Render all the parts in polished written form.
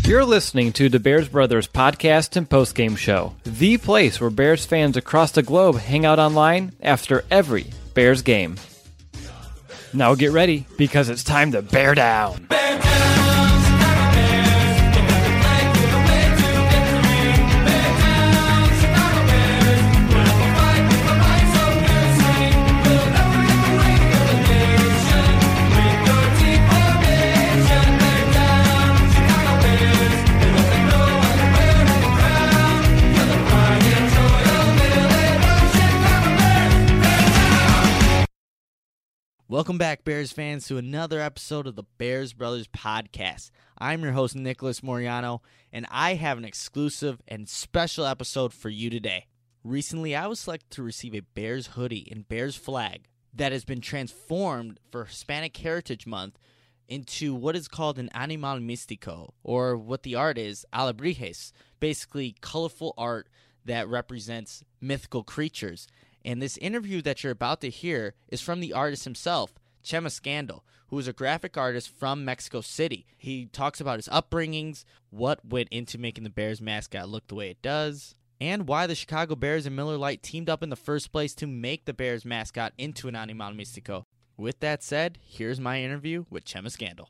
You're listening to the Bears Brothers podcast and postgame show, the place where Bears fans across the globe hang out online after every Bears game. Now get ready, because it's time to bear down. Welcome back, Bears fans, to another episode of the Bears Brothers podcast. I'm your host, Nicholas Moriano, and I have an exclusive and special episode for you today. Recently, I was selected to receive a Bears hoodie and Bears flag that has been transformed for Hispanic Heritage Month into what is called an animal místico, or what the art is, alebrijes, basically colorful art that represents mythical creatures. And this interview that you're about to hear is from the artist himself, Chema Scandal, who is a graphic artist from Mexico City. He talks about his upbringings, what went into making the Bears mascot look the way it does, and why the Chicago Bears and Miller Lite teamed up in the first place to make the Bears mascot into an animal místico. With that said, here's my interview with Chema Scandal.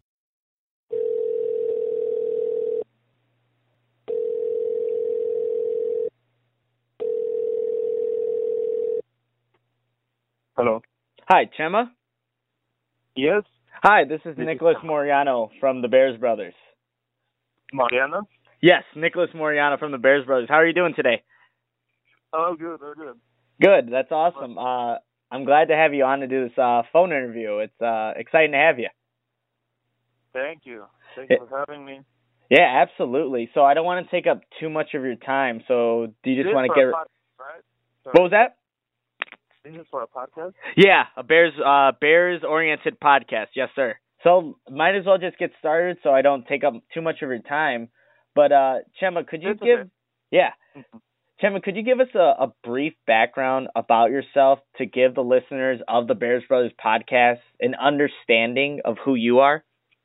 Hello. Hi, Chema. Yes, Hi, this is Nicholas Moriano from the Bears Brothers. Mariana. Yes, Nicholas Moriano from the Bears Brothers. How are you doing today? Oh, good. Oh, good. Good, that's awesome. I'm glad to have you on to do this phone interview. It's exciting to have you. Thank you. Thank you for having me. Yeah, absolutely. So I don't want to take up too much of your time. So do you just want to get... Right? What was that? This is for a podcast? Yeah, a Bears-oriented podcast. Yes, sir. So might as well just get started so I don't take up too much of your time. But Chema, could you Okay. Yeah. Chema, could you give us a brief background about yourself to give the listeners of the Bears Brothers podcast an understanding of who you are?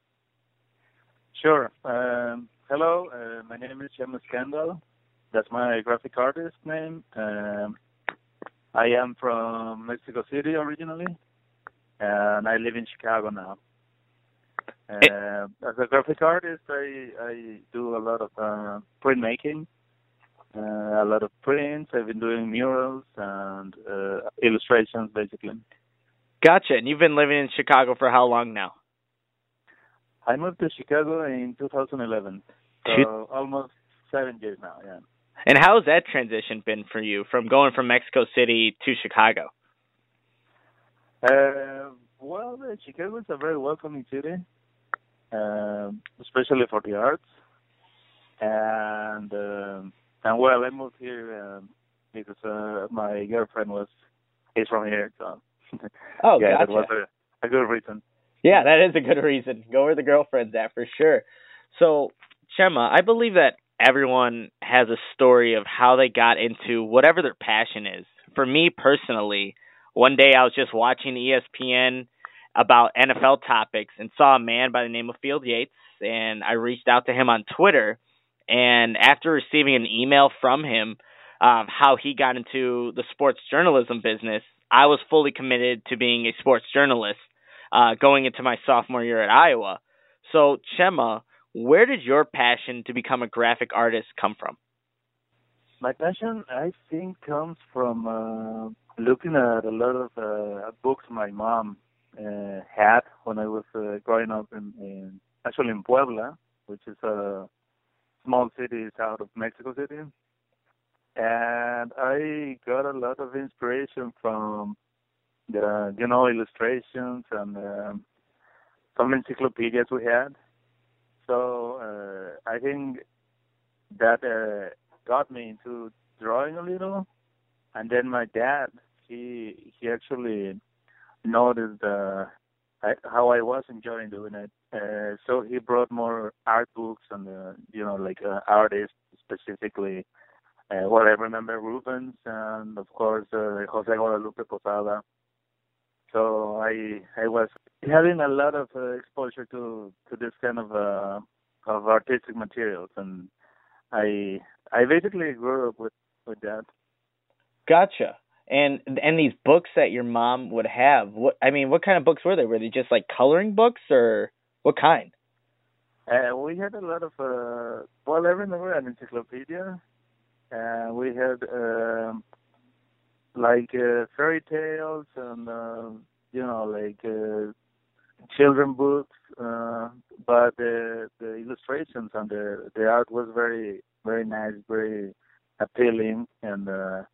Sure. Hello, my name is Chema Scandal. That's my graphic artist name. I am from Mexico City originally, and I live in Chicago now. As a graphic artist, I do a lot of printmaking, a lot of prints. I've been doing murals and illustrations, basically. Gotcha. And you've been living in Chicago for how long now? I moved to Chicago in 2011, so almost 7 years now, yeah. And how has that transition been for you from going from Mexico City to Chicago? Well, Chicago is a very welcoming city, especially for the arts. And well, I moved here because my girlfriend is from here, so Oh, yeah, gotcha. that was a good reason. Yeah, that is a good reason. Go where the girlfriend's at for sure. So, Chema, I believe that everyone has a story of how they got into whatever their passion is. For me personally, one day I was just watching ESPN about NFL topics and saw a man by the name of Field Yates, and I reached out to him on Twitter. And after receiving an email from him, how he got into the sports journalism business, I was fully committed to being a sports journalist going into my sophomore year at Iowa. So, Chema, where did your passion to become a graphic artist come from? My passion, I think, comes from looking at a lot of books my mom had when I was growing up in Puebla, which is a small city south of Mexico City. And I got a lot of inspiration from the, illustrations and some encyclopedias we had. So I think that got me into drawing a little. And then my dad, he actually noticed how I was enjoying doing it. So he brought more art books and, artists specifically. I remember Rubens and, of course, Jose Guadalupe Posada. So I was having a lot of exposure to this kind of of artistic materials, and I basically grew up with that. Gotcha. And these books that your mom would have, what kind of books were they? Were they just like coloring books, or what kind? We had a lot of well, I remember an encyclopedia. We had like fairy tales and like children books, but the illustrations and the art was very very nice, very appealing, and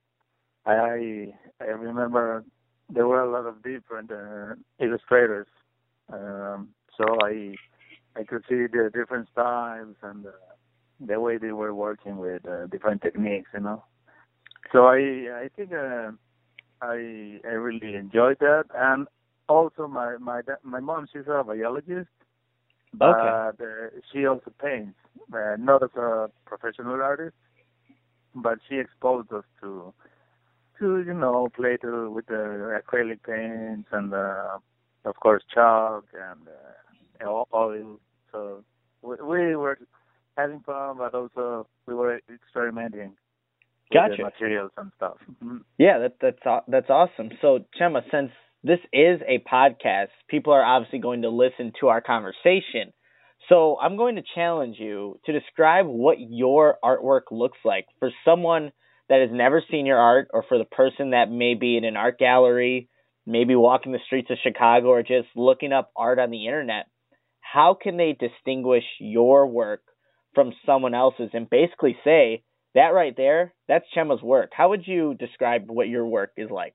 I remember there were a lot of different illustrators, so I could see the different styles and the way they were working with different techniques, So I think I really enjoyed that, and also my mom, she's a biologist, but Okay. she also paints, not as a professional artist, but she exposed us to play with the acrylic paints and of course chalk and oil. So we were having fun, but also we were experimenting with the Gotcha. materials and stuff. Mhm. Yeah, that's awesome. So, Chema, since this is a podcast, people are obviously going to listen to our conversation. So, I'm going to challenge you to describe what your artwork looks like for someone that has never seen your art, or for the person that may be in an art gallery, maybe walking the streets of Chicago, or just looking up art on the internet. How can they distinguish your work from someone else's and basically say, that right there, that's Chema's work? How would you describe what your work is like?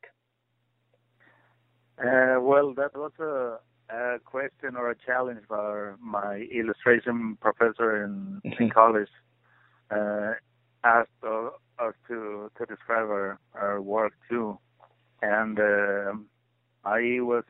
Well, that was a question or a challenge for my illustration professor in college. Uh, asked us to describe our work too, and I was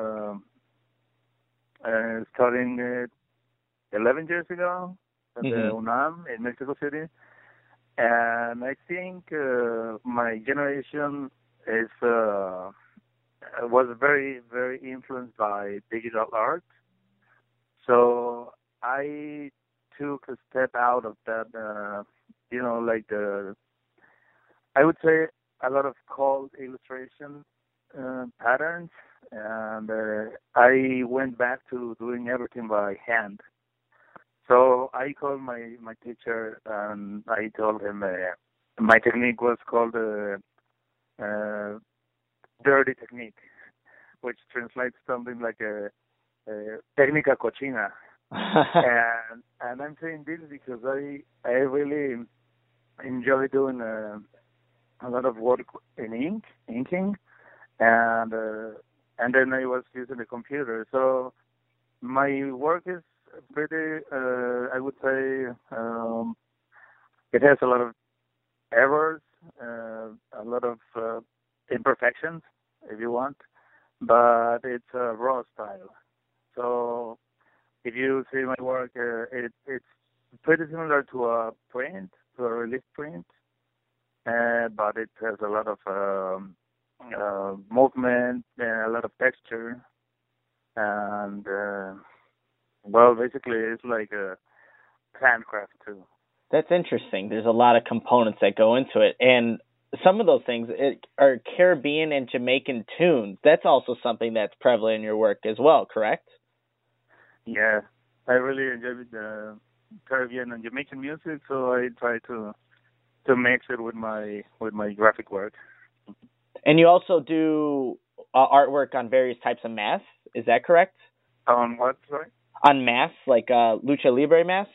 studying 11 years ago at the UNAM in Mexico City, and I think my generation is was very very influenced by digital art. So I took a step out of that, like I would say a lot of cold illustration patterns, and I went back to doing everything by hand. So I called my teacher and I told him my technique was called uh, dirty technique, which translates something like a técnica cochina. And I'm saying this because I really enjoy doing a lot of work in inking, and then I was using the computer. So my work is pretty, I would say, it has a lot of errors, a lot of imperfections, if you want, but it's a raw style. So if you see my work, it's pretty similar to a print, to a relief print, but it has a lot of movement and a lot of texture, and well, basically it's like a handcraft too. That's interesting. There's a lot of components that go into it, and some of those things are Caribbean and Jamaican tunes. That's also something that's prevalent in your work as well, correct? Yeah, I really enjoy the Caribbean and Jamaican music, so I try to mix it with my graphic work. And you also do artwork on various types of masks. Is that correct? On what, sorry? On masks, like lucha libre masks.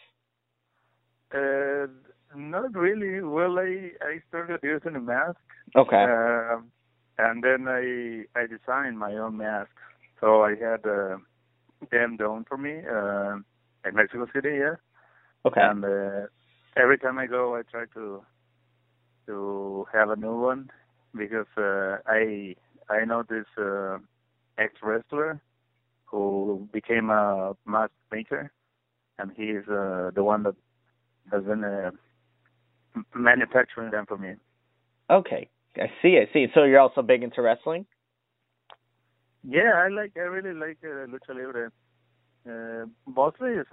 Not really. Well, I started using a mask. Okay. And then I designed my own mask. So I had them done for me in Mexico City, yeah. Okay. And every time I go, I try to have a new one because I know this ex wrestler who became a mask maker, and he is the one that has been manufacturing them for me. Okay, I see. So you're also big into wrestling? Yeah, I really like lucha libre. Mostly it's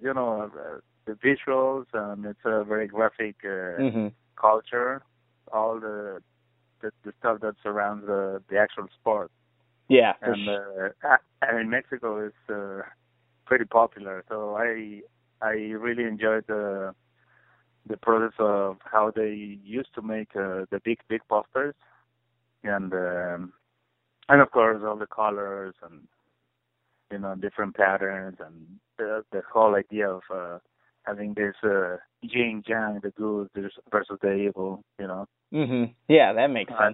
the visuals, and it's a very graphic Mhm. culture. All the stuff that surrounds the actual sport, Yeah, for and in Mexico it's pretty popular. So I really enjoyed the process of how they used to make the big posters, and and of course all the colors and different patterns, and the whole idea of having this yin yang, the good versus the evil. Mhm. Yeah, that makes Uh, sense.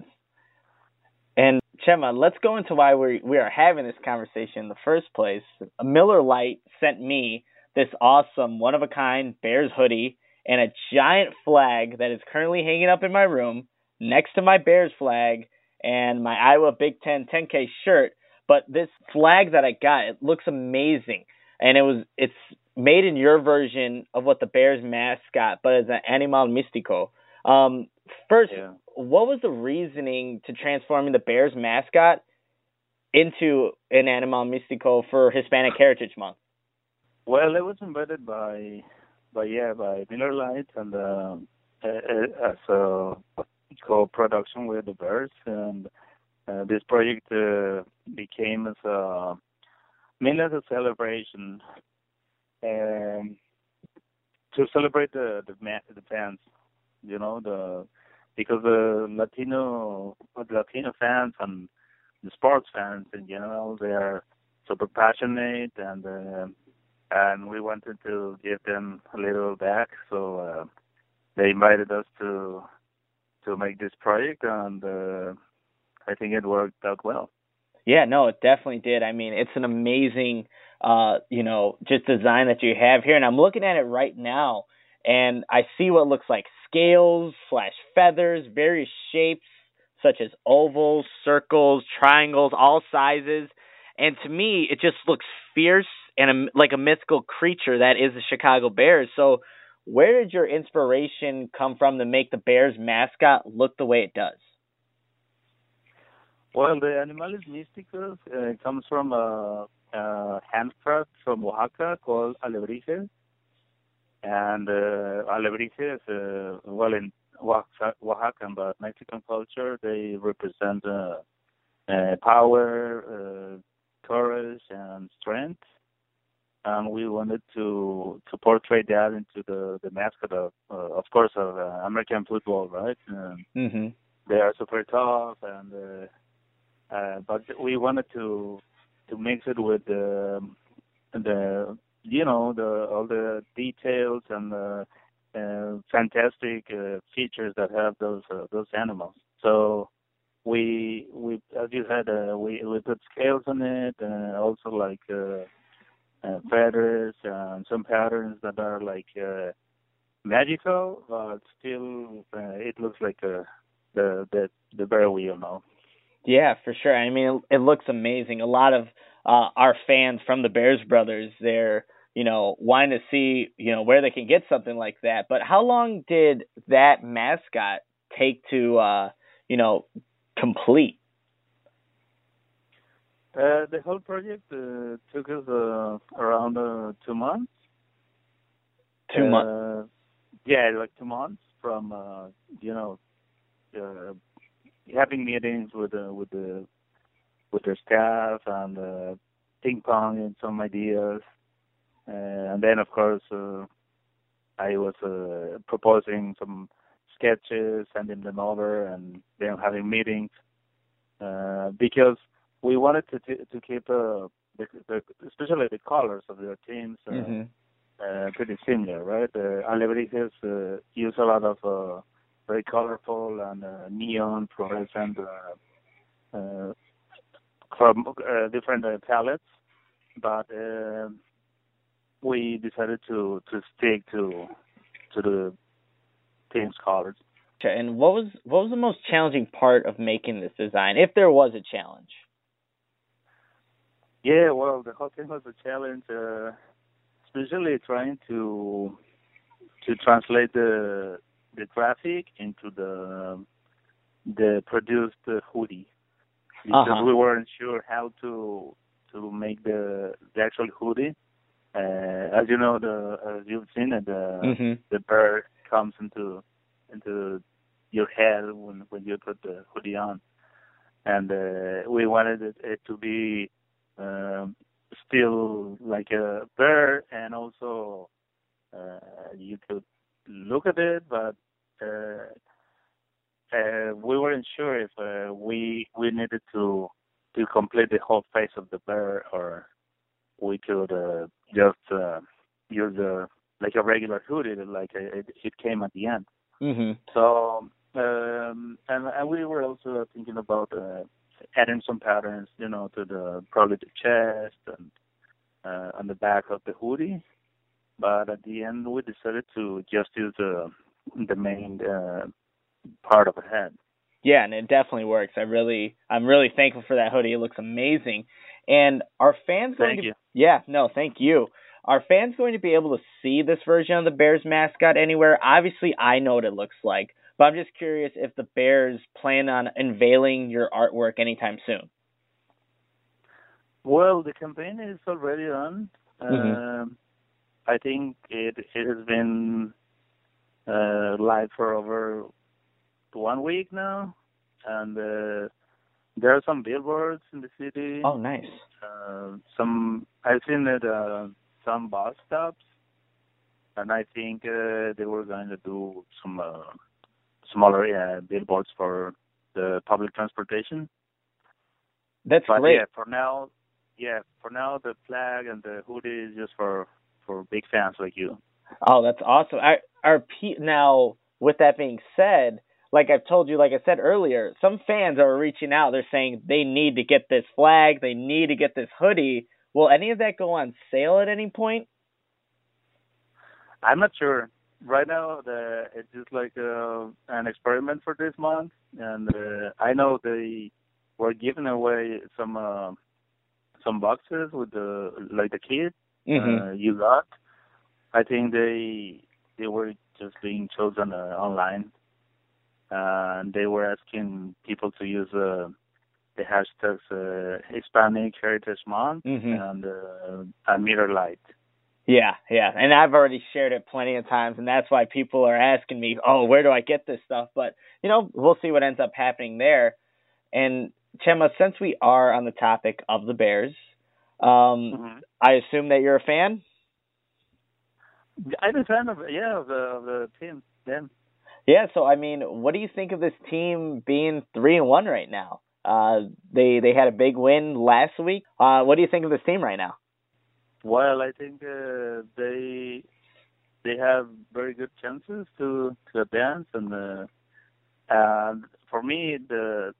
And Chema, let's go into why we are having this conversation in the first place. Miller Lite sent me this awesome one of a kind Bears hoodie and a giant flag that is currently hanging up in my room next to my Bears flag and my Iowa Big Ten 10K shirt. But this flag that I got, it looks amazing, and it's made in your version of what the Bears mascot, but as an animal mystico. First, yeah. what was the reasoning to transforming the Bears mascot into an animal mystico for Hispanic Heritage Month? Well, it was invited by Miller Lite, and as a co-production with the Bears, and this project became as mainly as a celebration, um, to celebrate the fans, because the Latino fans and the sports fans in general, they are super passionate, and we wanted to give them a little back, so they invited us to make this project, and I think it worked out well. Yeah, no, it definitely did. I mean, it's an amazing, just design that you have here, and I'm looking at it right now, and I see what looks like scales slash feathers, various shapes such as ovals, circles, triangles, all sizes, and to me, it just looks fierce and like a mythical creature that is the Chicago Bears. So, where did your inspiration come from to make the Bears mascot look the way it does? Well, the Animales Místicos comes from a handcraft from Oaxaca called alebrijes, and alebrijes, well, in Oaxacan but Mexican culture, they represent power, courage, and strength. And we wanted to portray that into the mascot of course, of American football, right? Mhm. They are super tough, and but we wanted to mix it with the the all the details and the fantastic features that have those animals. So we as you said, we put scales on it, also like feathers and some patterns that are like magical, but still it looks like the bear wheel now. Yeah, for sure. I mean, it looks amazing. A lot of our fans from the Bears brothers, they're wanting to see where they can get something like that. But how long did that mascot take to you know complete? The whole project took us around 2 months. 2 months. Yeah, like 2 months from you know uh, having meetings with their staff, and ping pong and some ideas, and then of course I was proposing some sketches, sending them over, and then having meetings because we wanted to keep especially the colors of their teams Mhm. pretty similar, right? Alebrijes use a lot of very colorful and neon fluorescent uh, from different palettes, but we decided to stick to the team's colors. Okay, and what was the most challenging part of making this design, if there was a challenge? Yeah, well, the whole thing was a challenge, especially trying to translate the graphic into the produced hoodie, Uh because huh. we weren't sure how to to make the actual hoodie. As you know, as you've seen it, the bird comes into your head when you put the hoodie on, and we wanted it to be still like a bird, and also you could look at it, but we weren't sure if we needed to complete the whole face of the bird, or we could just use like a regular hoodie, like it came at the end. So and we were also thinking about adding some patterns, to probably the chest and on the back of the hoodie. But at the end, we decided to just use the main part of the head. Yeah, and it definitely works. I'm really thankful for that hoodie. It looks amazing. And are fans going Thank you. Yeah, no, thank you. Are fans going to be able to see this version of the Bears mascot anywhere? Obviously, I know what it looks like, but I'm just curious if the Bears plan on unveiling your artwork anytime soon. Well, the campaign is already on. I think it has been live for over 1 week now, and there are some billboards in the city. Oh, nice. I've seen it some bus stops, and I think they were going to do some smaller billboards for the public transportation. That's but great. For now, the flag and the hoodie is just for big fans like you. Oh, that's awesome. Now, with that being said, like I've told you, like I said earlier, some fans are reaching out. They're saying they need to get this flag. They need to get this hoodie. Will any of that go on sale at any point? I'm not sure. Right now, it's just like an experiment for this month, and I know they were giving away some boxes with the kit you got. I think they were just being chosen online, and they were asking people to use the hashtags Hispanic Heritage Month and Miller Lite. Yeah, and I've already shared it plenty of times, and that's why people are asking me, oh, where do I get this stuff? But, we'll see what ends up happening there. And, Chema, since we are on the topic of the Bears, I assume that you're a fan? I'm a fan of the team, then. Yeah, so, I mean, what do you think of this team being 3-1 right now? They had a big win last week. What do you think of this team right now? Well, I think they have very good chances to advance, and for me, the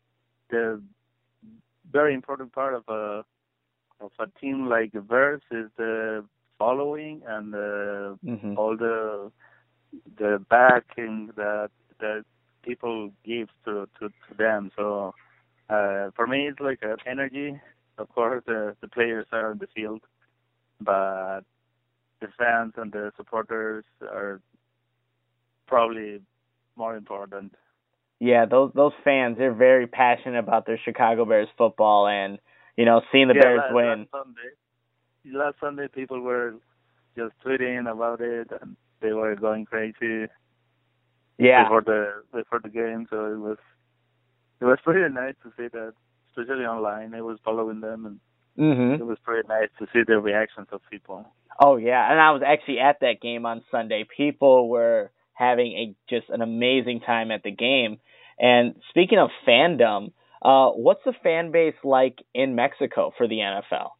very important part of a team like the Bears is the following and all the backing that people give to them. So for me, it's like an energy. Of course, the players are on the field, but the fans and the supporters are probably more important. Yeah, those fans, they're very passionate about their Chicago Bears football, and seeing the Bears win. Last Sunday, people were just tweeting about it, and they were going crazy. Yeah. Before the game, so it was pretty nice to see that, especially online. I was following them, and it was pretty nice to see the reactions of people. Oh yeah, and I was actually at that game on Sunday. People were having just an amazing time at the game. And speaking of fandom, what's the fan base like in Mexico for the NFL?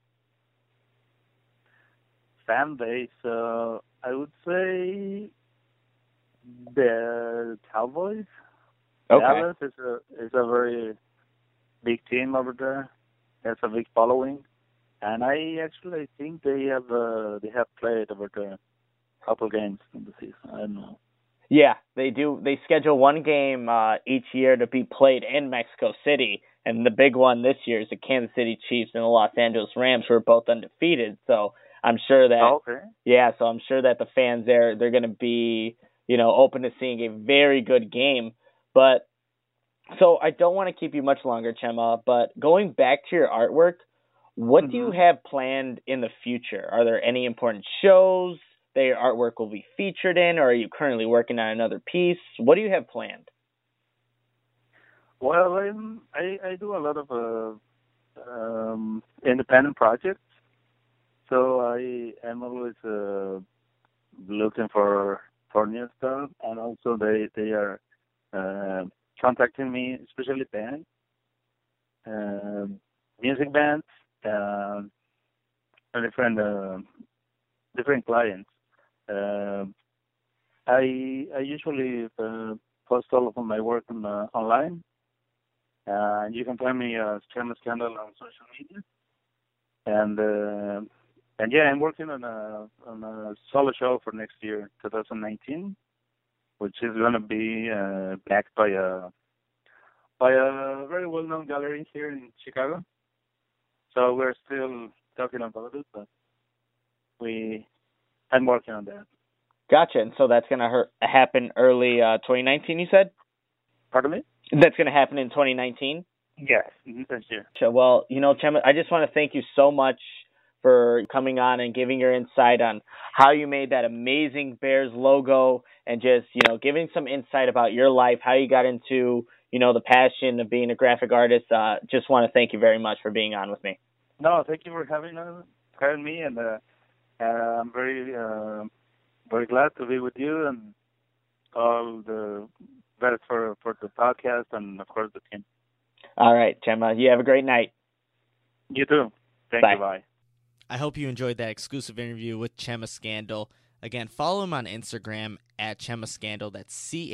Fan base, I would say the Cowboys. Okay. Dallas is a very big team over there. Has a big following, and I actually think they have played over there a couple games in the season. I don't know. Yeah, they do. They schedule one game each year to be played in Mexico City, and the big one this year is the Kansas City Chiefs and the Los Angeles Rams, who are both undefeated. So I'm sure that. Oh, okay. Yeah, so I'm sure that the fans there, they're going to be, open to seeing a very good game. But so I don't want to keep you much longer, Chema. But going back to your artwork, What do you have planned in the future? Are there any important shows that your artwork will be featured in, or are you currently working on another piece? What do you have planned? Well, I do a lot of independent projects, so I'm always looking for new stuff, and also they are contacting me, especially bands, music bands, and different clients. I usually post all of my work online. You can find me Chema Scandal on social media, and yeah, I'm working on a solo show for next year, 2019, which is going to be backed by a very well-known gallery here in Chicago. So we're still talking about it, but I'm working on that. Gotcha. And so that's going to happen early 2019, you said? Pardon me? That's going to happen in 2019? Yes, this year. Well, Chema, I just want to thank you so much for coming on and giving your insight on how you made that amazing Bears logo and just, giving some insight about your life, how you got into, the passion of being a graphic artist. Just want to thank you very much for being on with me. No, thank you for having me, and I'm very, very glad to be with you and all the best for the podcast and, of course, the team. All right, Chema. You have a great night. You too. Thank you. Bye. I hope you enjoyed that exclusive interview with Chema Scandal. Again, follow him on Instagram at Chema Scandal. That's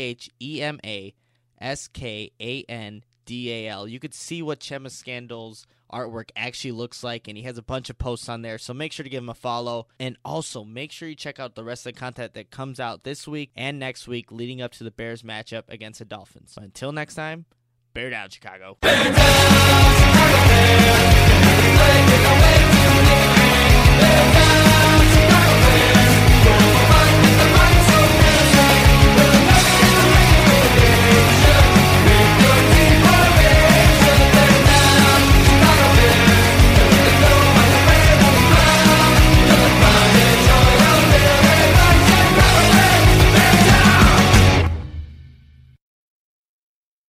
ChemaSkandal. You could see what Chema Scandal's artwork actually looks like, and he has a bunch of posts on there, so make sure to give him a follow. And also, make sure you check out the rest of the content that comes out this week and next week leading up to the Bears matchup against the Dolphins. So until next time, bear down, Chicago. Bear down!